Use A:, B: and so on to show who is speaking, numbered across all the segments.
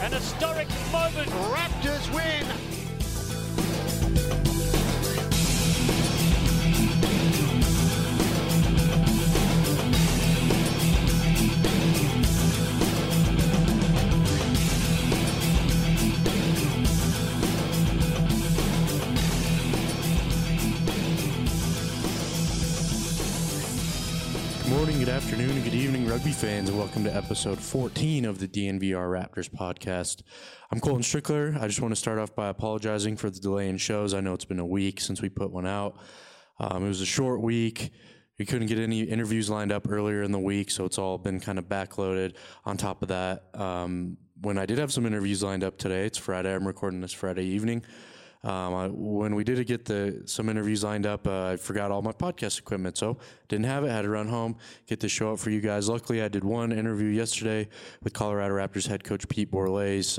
A: An historic moment.
B: Raptors win.
C: Good morning, good afternoon, and good evening, rugby fans, and welcome to episode 14 of the DNVR Raptors podcast. I'm Colton Strickler. I just want to start off by apologizing for the delay in shows. I know it's been a week since we put one out. It was a short week. We couldn't get any interviews lined up earlier in the week, so it's all been kind of backloaded. On top of that, when I did have some interviews lined up today, it's Friday. I'm recording this Friday evening. When we did get some interviews lined up, I forgot all my podcast equipment, so didn't have it. Had to run home, get the show up for you guys. Luckily, I did one interview yesterday with Colorado Raptors head coach Pete Borlase.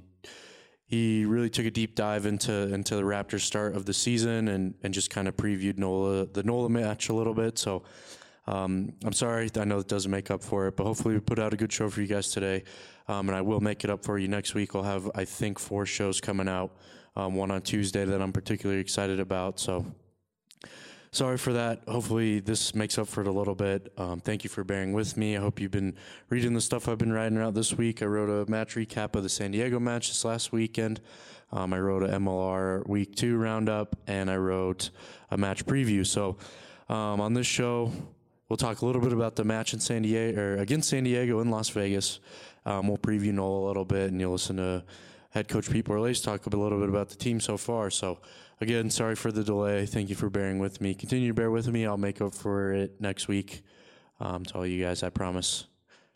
C: He really took a deep dive into the Raptors start of the season and just kind of previewed the NOLA match a little bit. So I'm sorry, I know it doesn't make up for it, but hopefully we put out a good show for you guys today, and I will make it up for you next week. We'll have, I think, 4 shows coming out. One on Tuesday that I'm particularly excited about. So sorry for that. Hopefully this makes up for it a little bit. Thank you for bearing with me. I hope you've been reading the stuff I've been writing out this week. I wrote a match recap of the San Diego match this last weekend. I wrote a MLR Week 2 roundup, and I wrote a match preview. So on this show, we'll talk a little bit about the match in San Diego, or against San Diego in Las Vegas. We'll preview NOLA a little bit, and you'll listen to head coach Pete Borlase talk a little bit about the team so far. So again, sorry for the delay. Thank you for bearing with me. Continue to bear with me. I'll make up for it next week to all you guys, I promise.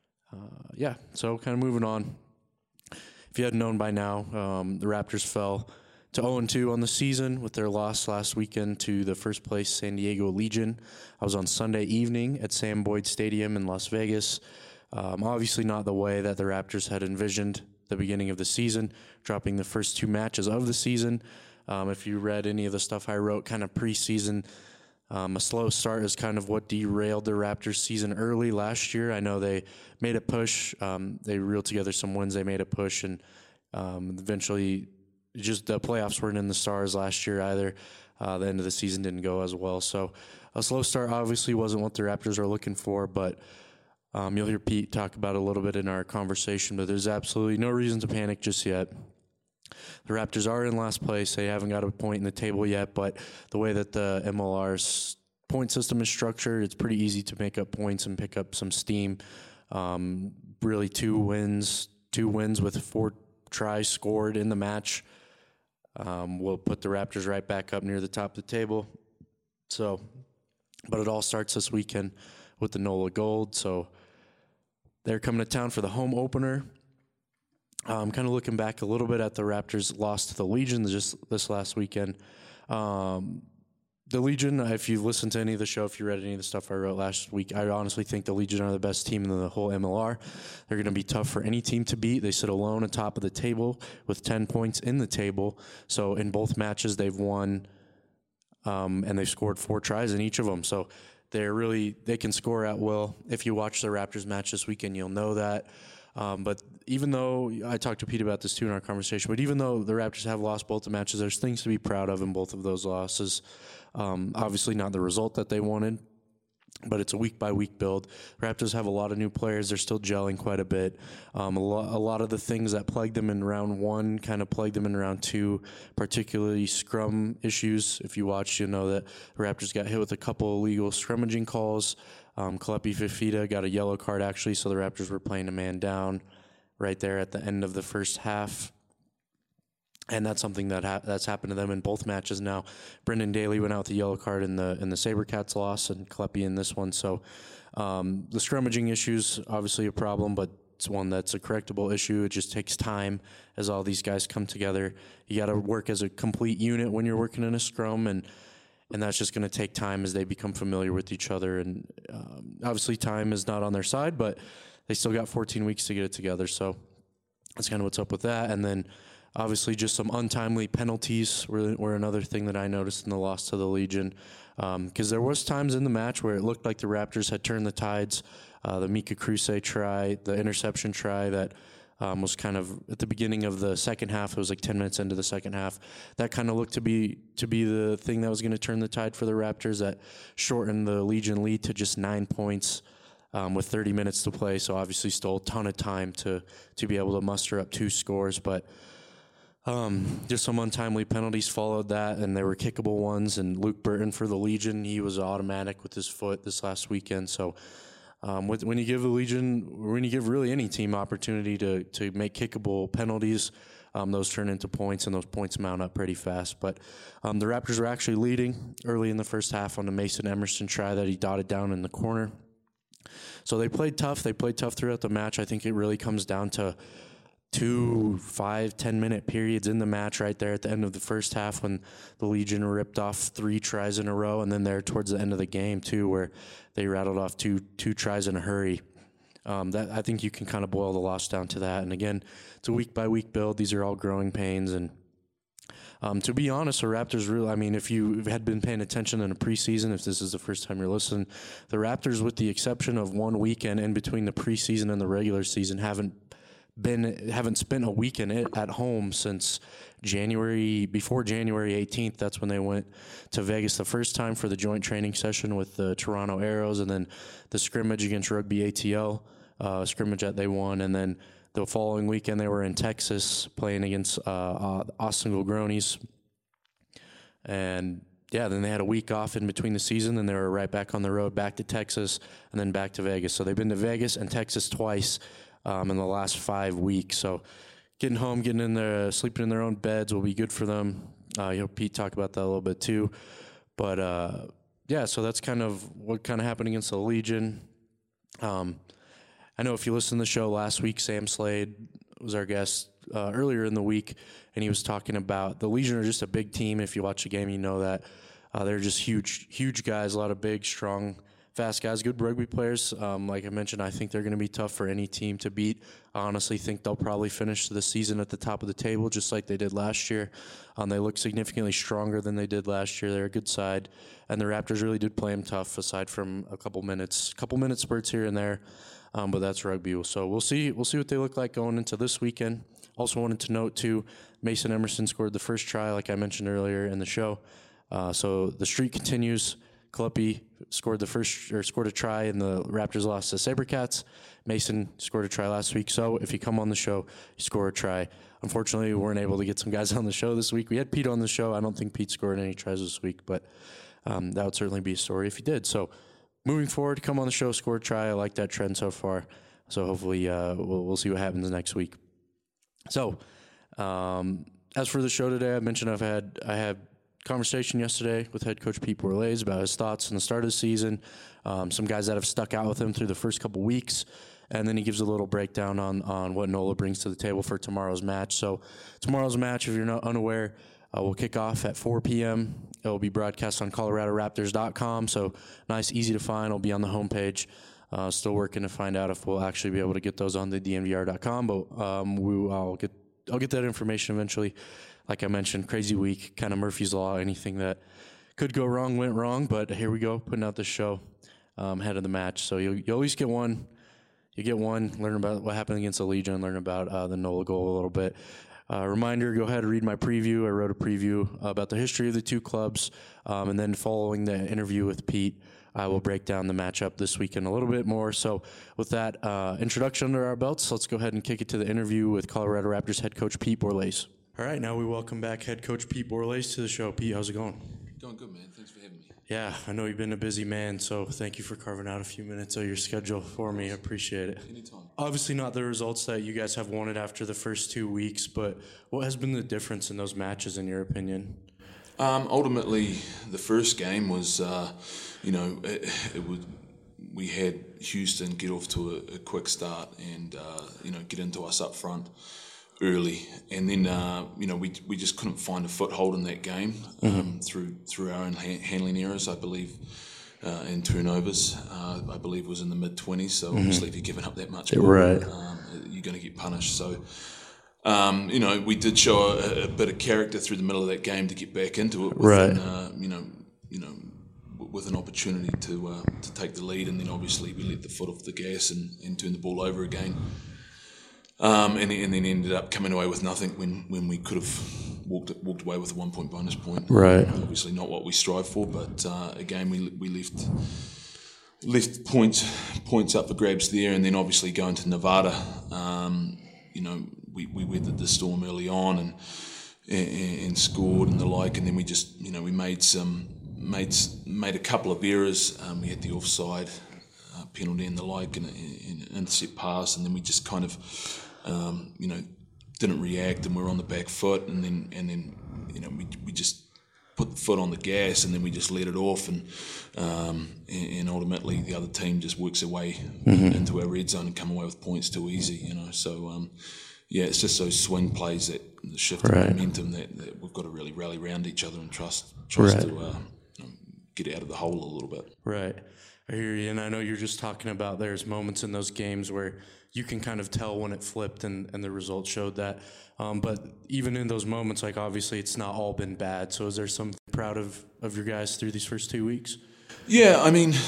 C: So kind of moving on. If you hadn't known by now, the Raptors fell to 0-2 on the season with their loss last weekend to the first place San Diego Legion. I was on Sunday evening at Sam Boyd Stadium in Las Vegas. Obviously not the way that the Raptors had envisioned the beginning of the season, dropping the first 2 matches of the season. If you read any of the stuff I wrote kind of preseason, a slow start is kind of what derailed the Raptors season early last year. I know they made a push. They reeled together some wins. They made a push, and eventually just the playoffs weren't in the stars last year either. The end of the season didn't go as well. So a slow start obviously wasn't what the Raptors are looking for, but you'll hear Pete talk about it a little bit in our conversation, but there's absolutely no reason to panic just yet. The Raptors are in last place. They haven't got a point in the table yet, but the way that the MLR's point system is structured, it's pretty easy to make up points and pick up some steam. Really 2 wins with 4 tries scored in the match will put the Raptors right back up near the top of the table. But it all starts this weekend with the NOLA Gold. So they're coming to town for the home opener. Kind of looking back a little bit at the Raptors' loss to the Legion just this last weekend. The Legion, if you listened to any of the show, if you read any of the stuff I wrote last week, I honestly think the Legion are the best team in the whole MLR. They're going to be tough for any team to beat. They sit alone atop of the table with 10 points in the table. So in both matches, they've won, and they've scored 4 tries in each of them. So they can score at will. If you watch the Raptors match this weekend, you'll know that. But even though, I talked to Pete about this too in our conversation, but even though the Raptors have lost both the matches, there's things to be proud of in both of those losses. Obviously not the result that they wanted, but it's a week-by-week build. Raptors have a lot of new players. They're still gelling quite a bit. A lot of the things that plagued them in round 1 kind of plagued them in round 2, particularly scrum issues. If you watch, you know that the Raptors got hit with a couple illegal scrummaging calls. Kalepi Fifita got a yellow card, actually, so the Raptors were playing a man down right there at the end of the first half. And that's something that's happened to them in both matches now. Brendan Daly went out with the yellow card in the SaberCats loss, and Kalepi in this one. So the scrummaging issue's obviously a problem, but it's one that's a correctable issue. It just takes time as all these guys come together. You got to work as a complete unit when you're working in a scrum, and that's just going to take time as they become familiar with each other. And obviously time is not on their side, but they still got 14 weeks to get it together. So that's kind of what's up with that. And then obviously just some untimely penalties were another thing that I noticed in the loss to the Legion. Because there was times in the match where it looked like the Raptors had turned the tides. The Mika Kruse try, the interception try that was kind of at the beginning of the second half. It was like 10 minutes into the second half. That kind of looked to be the thing that was going to turn the tide for the Raptors. That shortened the Legion lead to just 9 points with 30 minutes to play. So obviously still a ton of time to be able to muster up 2 scores. But just some untimely penalties followed that, and they were kickable ones. And Luke Burton for the Legion, he was automatic with his foot this last weekend. So when you give the Legion, when you give really any team opportunity to make kickable penalties, those turn into points, and those points mount up pretty fast. But the Raptors were actually leading early in the first half on the Mason Emerson try that he dotted down in the corner. So they played tough. They played tough throughout the match. I think it really comes down to 2 5-10 minute periods in the match right there at the end of the first half when the Legion ripped off 3 tries in a row, and then there towards the end of the game too where they rattled off two tries in a hurry. That I think you can kind of boil the loss down to that. And again, it's a week by week build. These are all growing pains. And to be honest, the Raptors really, I mean, if you had been paying attention in the preseason, if this is the first time you're listening, the Raptors, with the exception of one weekend in between the preseason and the regular season, haven't spent a weekend at home since before January 18th. That's when they went to Vegas the first time for the joint training session with the Toronto Arrows, and then the scrimmage against Rugby ATL, scrimmage that they won, and then the following weekend they were in Texas playing against Austin Gilgronis. And yeah, then they had a week off in between the season, and they were right back on the road, back to Texas, and then back to Vegas. So they've been to Vegas and Texas twice in the last 5 weeks. So getting home, getting in there, sleeping in their own beds will be good for them. Pete talked about that a little bit too. But yeah, so that's kind of what kind of happened against the Legion. I know if you listened to the show last week, Sam Slade was our guest earlier in the week, and he was talking about the Legion are just a big team. If you watch the game, you know that. They're just huge guys, a lot of big, strong, fast guys, good rugby players. Like I mentioned, I think they're going to be tough for any team to beat. I honestly think they'll probably finish the season at the top of the table, just like they did last year. They look significantly stronger than they did last year. They're a good side, and the Raptors really did play them tough, aside from a couple minute spurts here and there. But that's rugby. So we'll see what they look like going into this weekend. Also wanted to note too, Mason Emerson scored the first try, like I mentioned earlier in the show. So the streak continues. Kalupi scored a try, and the Raptors lost to SaberCats. Mason scored a try last week. So if you come on the show, you score a try. Unfortunately, we weren't able to get some guys on the show this week. We had Pete on the show. I don't think Pete scored any tries this week, but that would certainly be a story if he did. So moving forward, come on the show, score a try. I like that trend so far. So hopefully we'll see what happens next week. So as for the show today, I mentioned I had conversation yesterday with head coach Pete Borlase about his thoughts on the start of the season, some guys that have stuck out with him through the first couple weeks, and then he gives a little breakdown on what NOLA brings to the table for tomorrow's match. So tomorrow's match, if you're not unaware, will kick off at 4 p.m. It will be broadcast on ColoradoRaptors.com, so nice, easy to find. It'll be on the homepage. Still working to find out if we'll actually be able to get those on the DNVR.com, but I'll get that information eventually. Like I mentioned, crazy week, kind of Murphy's Law. Anything that could go wrong went wrong, but here we go, putting out this show ahead of the match. So you at least get one. You get one, learn about what happened against the Legion, learn about the NOLA goal a little bit. Reminder, go ahead and read my preview. I wrote a preview about the history of the two clubs, and then following the interview with Pete, I will break down the matchup this weekend a little bit more. So with that introduction under our belts, let's go ahead and kick it to the interview with Colorado Raptors head coach Pete Borlase. All right, now we welcome back head coach Pete Borlase to the show. Pete, how's it going?
A: Going good, man. Thanks for having me.
C: Yeah, I know you've been a busy man, so thank you for carving out a few minutes of your schedule for me. I appreciate it.
A: Anytime.
C: Obviously not the results that you guys have wanted after the first 2 weeks, but what has been the difference in those matches, in your opinion?
A: Ultimately, the first game was, we had Houston get off to a quick start and, get into us up front early, and then we just couldn't find a foothold in that game through our own handling errors, I believe, and turnovers. I believe was in the mid-20s. So obviously, if you're giving up that much ball,
C: right,
A: you're going to get punished. So we did show a bit of character through the middle of that game to get back into it. With with an opportunity to take the lead, and then obviously we let the foot off the gas and turn the ball over again. and then ended up coming away with nothing when we could have walked away with a 1 point bonus point.
C: Right.
A: Obviously not what we strive for, but again we left points up for grabs there, and then obviously going to Nevada. We weathered the storm early on and scored and the like, and then we just we made a couple of errors. We had the offside penalty and the like, and an intercept pass, and then we just kind of didn't react, and we were on the back foot, and then we just put the foot on the gas, and then we just let it off, and ultimately the other team just works their way into our red zone and come away with points too easy. So it's just those swing plays, that the shift in momentum that we've got to really rally around each other and trust to get out of the hole a little bit.
C: Right. I hear you, and I know you're just talking about there's moments in those games where you can kind of tell when it flipped and the results showed that. But even in those moments, like obviously it's not all been bad. So is there something proud of your guys through these first 2 weeks?
A: Yeah, I mean,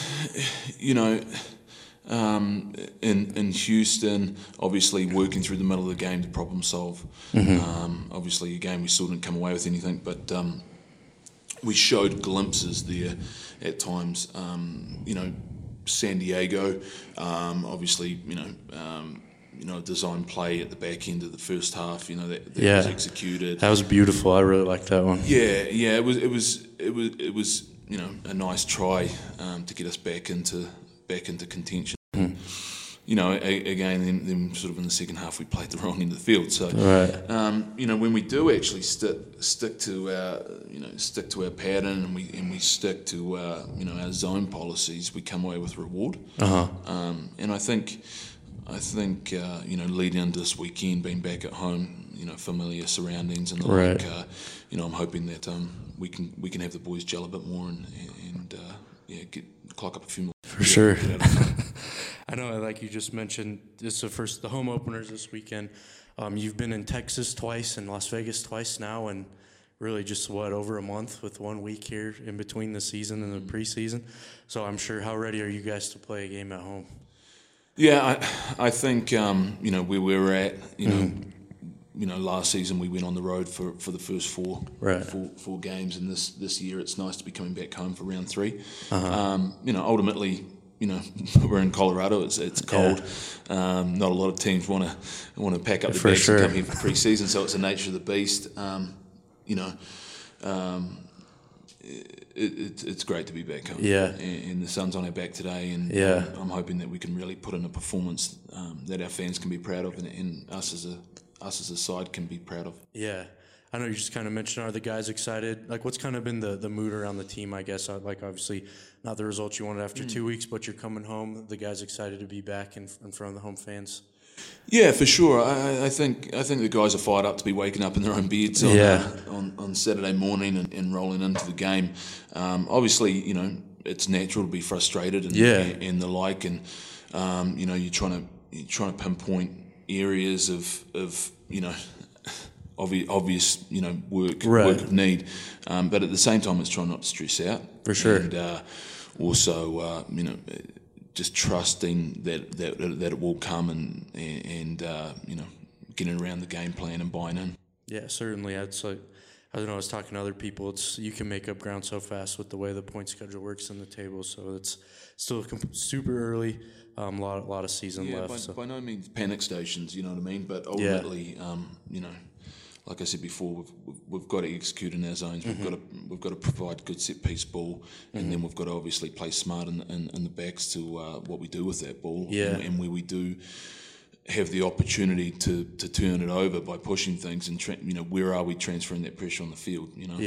A: in Houston, obviously working through the middle of the game to problem solve. Obviously, again, we still didn't come away with anything, but we showed glimpses there at times. San Diego, obviously, a design play at the back end of the first half, that was executed.
C: That was beautiful. I really liked that one.
A: Yeah, it was a nice try to get us back into contention. Again, then sort of in the second half we played the wrong end of the field. So, when we do actually stick to our pattern and we stick to our zone policies, we come away with reward. And I think leading into this weekend, being back at home, familiar surroundings and the like, I'm hoping that we can have the boys gel a bit more and clock up a few more.
C: For sure. I know, like you just mentioned, this is the home openers this weekend. You've been in Texas twice and Las Vegas twice now, and really just over a month with 1 week here in between the season and the preseason. So I'm sure, how ready are you guys to play a game at home?
A: Yeah, I think where we were at, last season we went on the road for the first four games, and this year it's nice to be coming back home for round 3. Ultimately, we're in Colorado. It's cold. Not a lot of teams want to pack up their bags and come here for pre-season. So it's the nature of the beast. It's great to be back home. Yeah. And the sun's on our back today, and I'm hoping that we can really put in a performance that our fans can be proud of, and us as a side can be proud of.
C: Yeah. I know you just kind of mentioned, are the guys excited? Like, what's kind of been the mood around the team, I guess? Like, obviously, not the results you wanted after 2 weeks, but you're coming home. The guys excited to be back in front of the home fans?
A: Yeah, for sure. I think the guys are fired up to be waking up in their own beds on Saturday morning and rolling into the game. Obviously, it's natural to be frustrated and the like, and you're trying to pinpoint areas of obvious work of need, but at the same time it's trying not to stress out.
C: For sure.
A: And also just trusting that it will come and getting around the game plan and buying in.
C: Yeah, certainly. It's like, I don't know, I was talking to other people, you can make up ground so fast with the way the point schedule works in the table, so it's still super early. A lot of season left.
A: By no means panic stations, you know what I mean? But ultimately, like I said before, we've got to execute in our zones. We've got to provide good set piece ball, and then we've got to obviously play smart in the backs to what we do with that ball, and where we do have the opportunity to turn it over by pushing things, and where are we transferring that pressure on the field?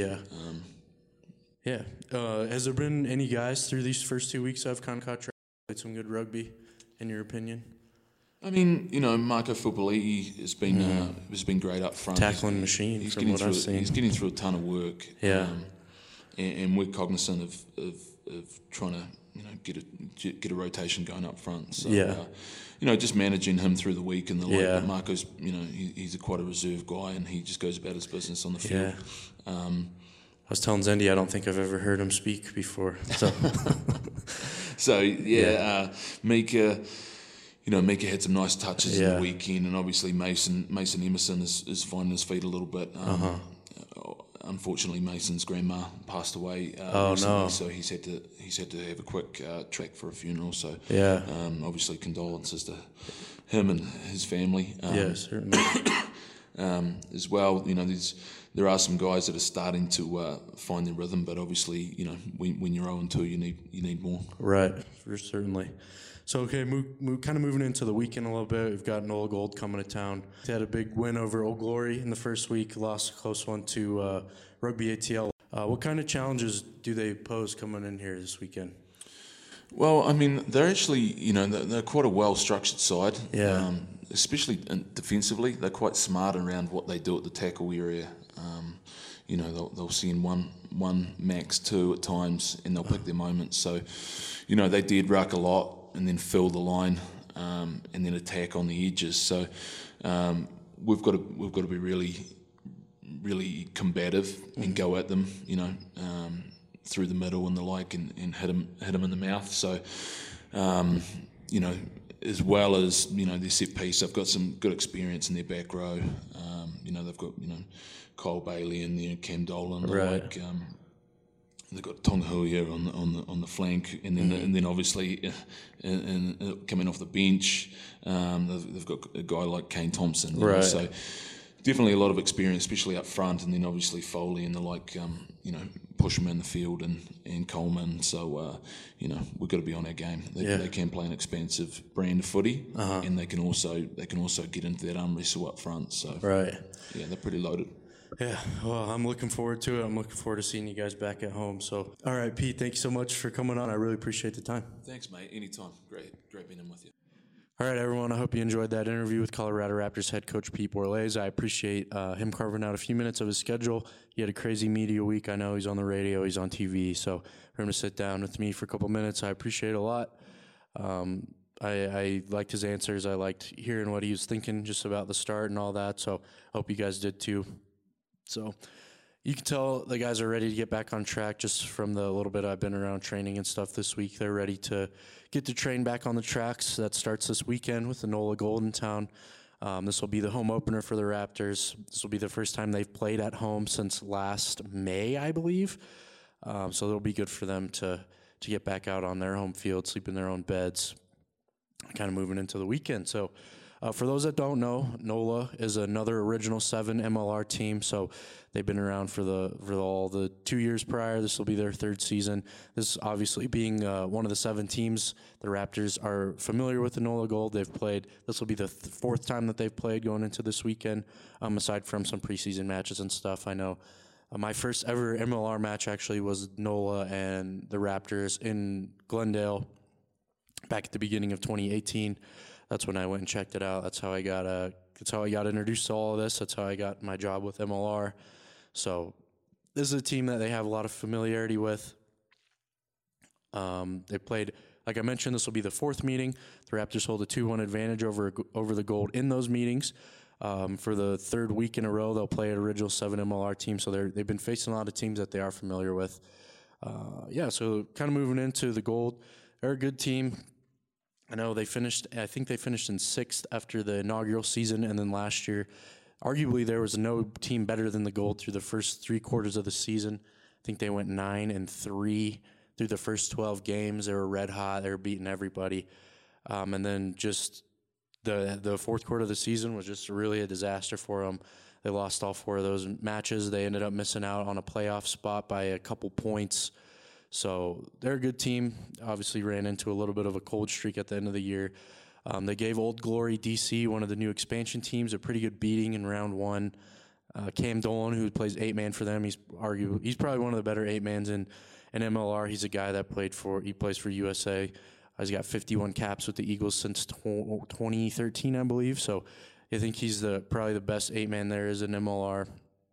C: Has there been any guys through these first 2 weeks of Concacaf played some good rugby, in your opinion?
A: I mean, Marco Fupoli has been great up front.
C: Tackling machine,
A: he's
C: from what I've seen.
A: He's getting through a ton of work.
C: Yeah.
A: And we're cognizant of trying to get a rotation going up front. So, just managing him through the week and the like. But Marco's, he's quite a reserved guy, and he just goes about his business on the field.
C: Yeah. I was telling Zendy, I don't think I've ever heard him speak before. So,
A: Mika, Mika had some nice touches in
C: Yeah.
A: the weekend, and obviously Mason Emerson is finding his feet a little bit. Unfortunately, Mason's grandma passed away recently,
C: no.
A: so he's had to have a quick track for a funeral. So
C: Yeah.
A: obviously condolences to him and his family.
C: Yeah, certainly.
A: As well, there are some guys that are starting to find their rhythm, but obviously, when you're 0-2, you need more.
C: Right, certainly. So, okay, kind of moving into the weekend a little bit. We've got Nola Gold coming to town. They had a big win over Old Glory in the first week, lost a close one to Rugby ATL. What kind of challenges do they pose coming in here this weekend?
A: Well, I mean, they're actually, they're quite a well-structured side.
C: Yeah.
A: Especially defensively, they're quite smart around what they do at the tackle area. They'll send one max two at times, and they'll pick their moments. So, they dead ruck a lot and then fill the line, and then attack on the edges. So, we've got to be really, really combative and go at them. Through the middle and the like, and hit them in the mouth. So, as well as their set piece, they've got some good experience in their back row. They've got Kyle Bailey in there, Cam Dolan,
C: Right.
A: They've got Tongahuia on the flank, and then obviously, coming off the bench, they've got a guy like Kane Thompson.
C: Right.
A: So definitely a lot of experience, especially up front, and then obviously Foley and the like. Push them in the field and Coleman. So we've got to be on our game. They can play an expansive brand of footy, and they can also get into that arm wrestle up front. So
C: Right.
A: yeah, they're pretty loaded.
C: Yeah, well, I'm looking forward to it. I'm looking forward to seeing you guys back at home. So, all right, Pete, thank you so much for coming on. I really appreciate the time.
A: Thanks, mate. Anytime. Great being in with you.
C: All right, everyone, I hope you enjoyed that interview with Colorado Raptors head coach Pete Borlase. I appreciate him carving out a few minutes of his schedule. He had a crazy media week. I know he's on the radio, he's on TV, so for him to sit down with me for a couple minutes, I appreciate it a lot. I liked his answers. I liked hearing what he was thinking just about the start and all that, so I hope you guys did too. So you can tell the guys are ready to get back on track just from the little bit I've been around training and stuff this week. They're ready to get the train back on the tracks. That starts this weekend with the Nola Gold in town. This will be the home opener for the Raptors. This will be the first time they've played at home since last May, I believe. So it'll be good for them to get back out on their home field, sleep in their own beds, kind of moving into the weekend. So for those that don't know, NOLA is another Original 7 MLR team. So they've been around for all the 2 years prior. This will be their third season. This obviously being one of the 7 teams. The Raptors are familiar with the NOLA Gold. They've played. This will be the fourth time that they've played going into this weekend, aside from some preseason matches and stuff. I know my first ever MLR match actually was NOLA and the Raptors in Glendale back at the beginning of 2018. That's when I went and checked it out. That's how I got introduced to all of this. That's how I got my job with MLR. So this is a team that they have a lot of familiarity with. They played, like I mentioned, this will be the fourth meeting. The Raptors hold a 2-1 advantage over the Gold in those meetings. For the third week in a row, they'll play an Original 7 MLR team. So they've been facing a lot of teams that they are familiar with. So kind of moving into the Gold. They're a good team. I know I think they finished in 6th after the inaugural season, and then last year, arguably there was no team better than the Gold through the first 3 quarters of the season. I think they went 9-3 through the first 12 games. They were red hot. They were beating everybody. And then just the fourth quarter of the season was just really a disaster for them. They lost all 4 of those matches. They ended up missing out on a playoff spot by a couple points. So they're a good team. Obviously ran into a little bit of a cold streak at the end of the year. They gave Old Glory DC, one of the new expansion teams, a pretty good beating in round 1. Cam Dolan, who plays 8-man for them, he's probably one of the better 8-mans in MLR. He's a guy that plays for USA. He's got 51 caps with the Eagles since 2013, I believe. So I think he's probably the best 8-man there is in MLR.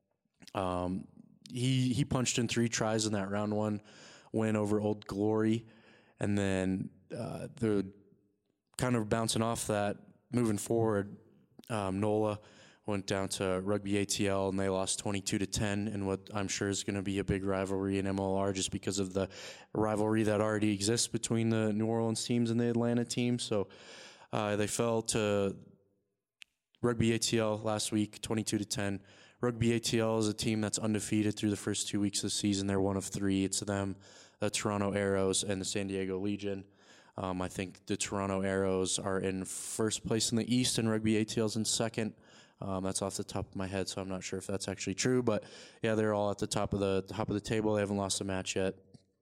C: He punched in 3 tries in that round 1 win over Old Glory, and then the kind of bouncing off that, moving forward, NOLA went down to Rugby ATL, and they lost 22-10 in what I'm sure is going to be a big rivalry in MLR just because of the rivalry that already exists between the New Orleans teams and the Atlanta team. So They fell to Rugby ATL last week, 22-10. Rugby ATL is a team that's undefeated through the first 2 weeks of the season. They're one of three. It's them, the Toronto Arrows, and the San Diego Legion. I think the Toronto Arrows are in first place in the East, and Rugby ATL's in second. That's off the top of my head, so I'm not sure if that's actually true. But yeah, they're all at the top of the table. They haven't lost a match yet.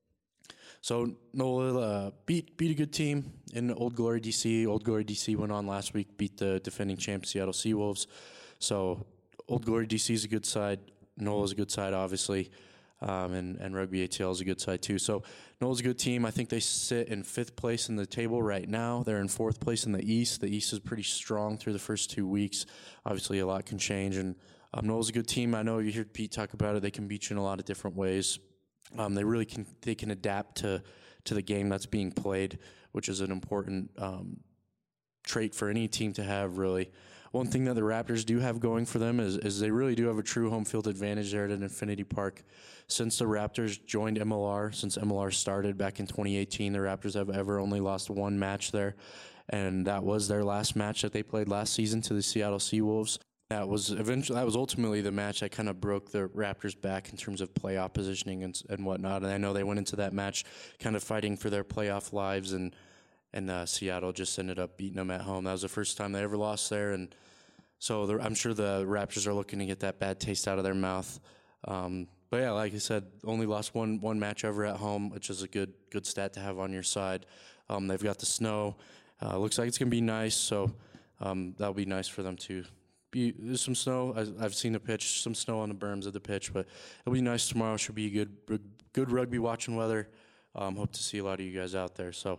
C: So NOLA beat a good team in Old Glory DC. Old Glory DC went on last week, beat the defending champ Seattle Seawolves. So Old Glory DC is a good side. NOLA is a good side, obviously. And Rugby ATL is a good side too. So NOLA's a good team. I think they sit in 5th place in the table right now. They're in 4th place in the East. The East is pretty strong through the first 2 weeks. Obviously, a lot can change. And NOLA's a good team. I know you hear Pete talk about it. They can beat you in a lot of different ways. They can adapt to the game that's being played, which is an important trait for any team to have, really. One thing that the Raptors do have going for them is they really do have a true home field advantage there at Infinity Park. Since the Raptors joined MLR, since MLR started back in 2018, the Raptors have ever only lost one match there, and that was their last match that they played last season to the Seattle Seawolves. That was ultimately the match that kind of broke the Raptors back in terms of playoff positioning and whatnot. And I know they went into that match kind of fighting for their playoff lives, and Seattle just ended up beating them at home. That was the first time they ever lost there, and so I'm sure the Raptors are looking to get that bad taste out of their mouth. But yeah, like I said, only lost one match ever at home, which is a good stat to have on your side. They've got the snow. Looks like it's gonna be nice, so that'll be nice for them too. There's some snow. I've seen the pitch, some snow on the berms of the pitch, but it'll be nice tomorrow. Should be good rugby watching weather. Hope to see a lot of you guys out there. So,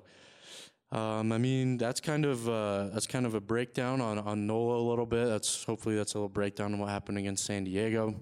C: that's kind of a breakdown on NOLA a little bit. Hopefully that's a little breakdown on what happened against San Diego.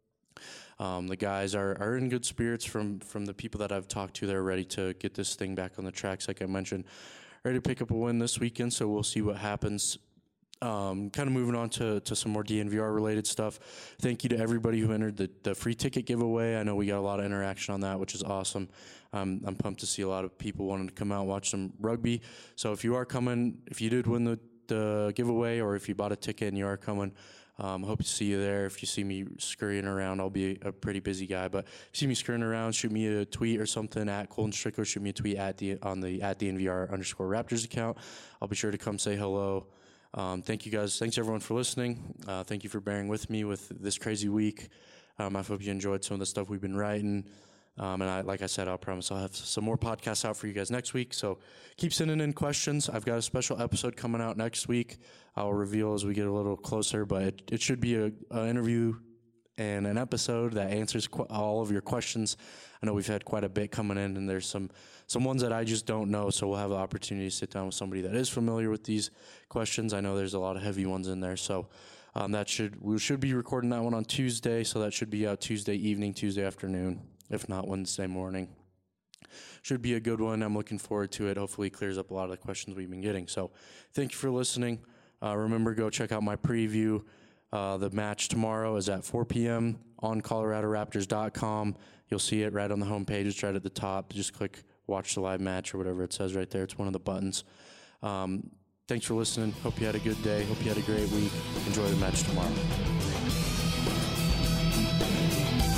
C: The guys are in good spirits from the people that I've talked to. They're ready to get this thing back on the tracks, like I mentioned. Ready to pick up a win this weekend, so we'll see what happens. Kind of moving on to some more DNVR-related stuff. Thank you to everybody who entered the free ticket giveaway. I know we got a lot of interaction on that, which is awesome. I'm pumped to see a lot of people wanting to come out and watch some rugby. So if you are coming, if you did win the giveaway, or if you bought a ticket and you are coming, hope to see you there. If you see me scurrying around, I'll be a pretty busy guy. But if you see me scurrying around, shoot me a tweet or something at Colton Strickler. Shoot me a tweet on the @DNVR_Raptors account. I'll be sure to come say hello. Thank you guys. Thanks everyone for listening. Thank you for bearing with me with this crazy week. I hope you enjoyed some of the stuff we've been writing. Like I said, I'll promise I'll have some more podcasts out for you guys next week. So keep sending in questions. I've got a special episode coming out next week. I'll reveal as we get a little closer, but it should be an interview and an episode that answers all of your questions. I know we've had quite a bit coming in, and there's some ones that I just don't know, so we'll have the opportunity to sit down with somebody that is familiar with these questions. I know there's a lot of heavy ones in there, so we should be recording that one on Tuesday, so that should be out Tuesday evening, Tuesday afternoon, if not Wednesday morning. Should be a good one. I'm looking forward to it. Hopefully it clears up a lot of the questions we've been getting. So thank you for listening. Remember, go check out my preview. The match tomorrow is at 4 p.m. on ColoradoRaptors.com. You'll see it right on the homepage. It's right at the top. Just click watch the live match or whatever it says right there. It's one of the buttons. Thanks for listening. Hope you had a good day. Hope you had a great week. Enjoy the match tomorrow.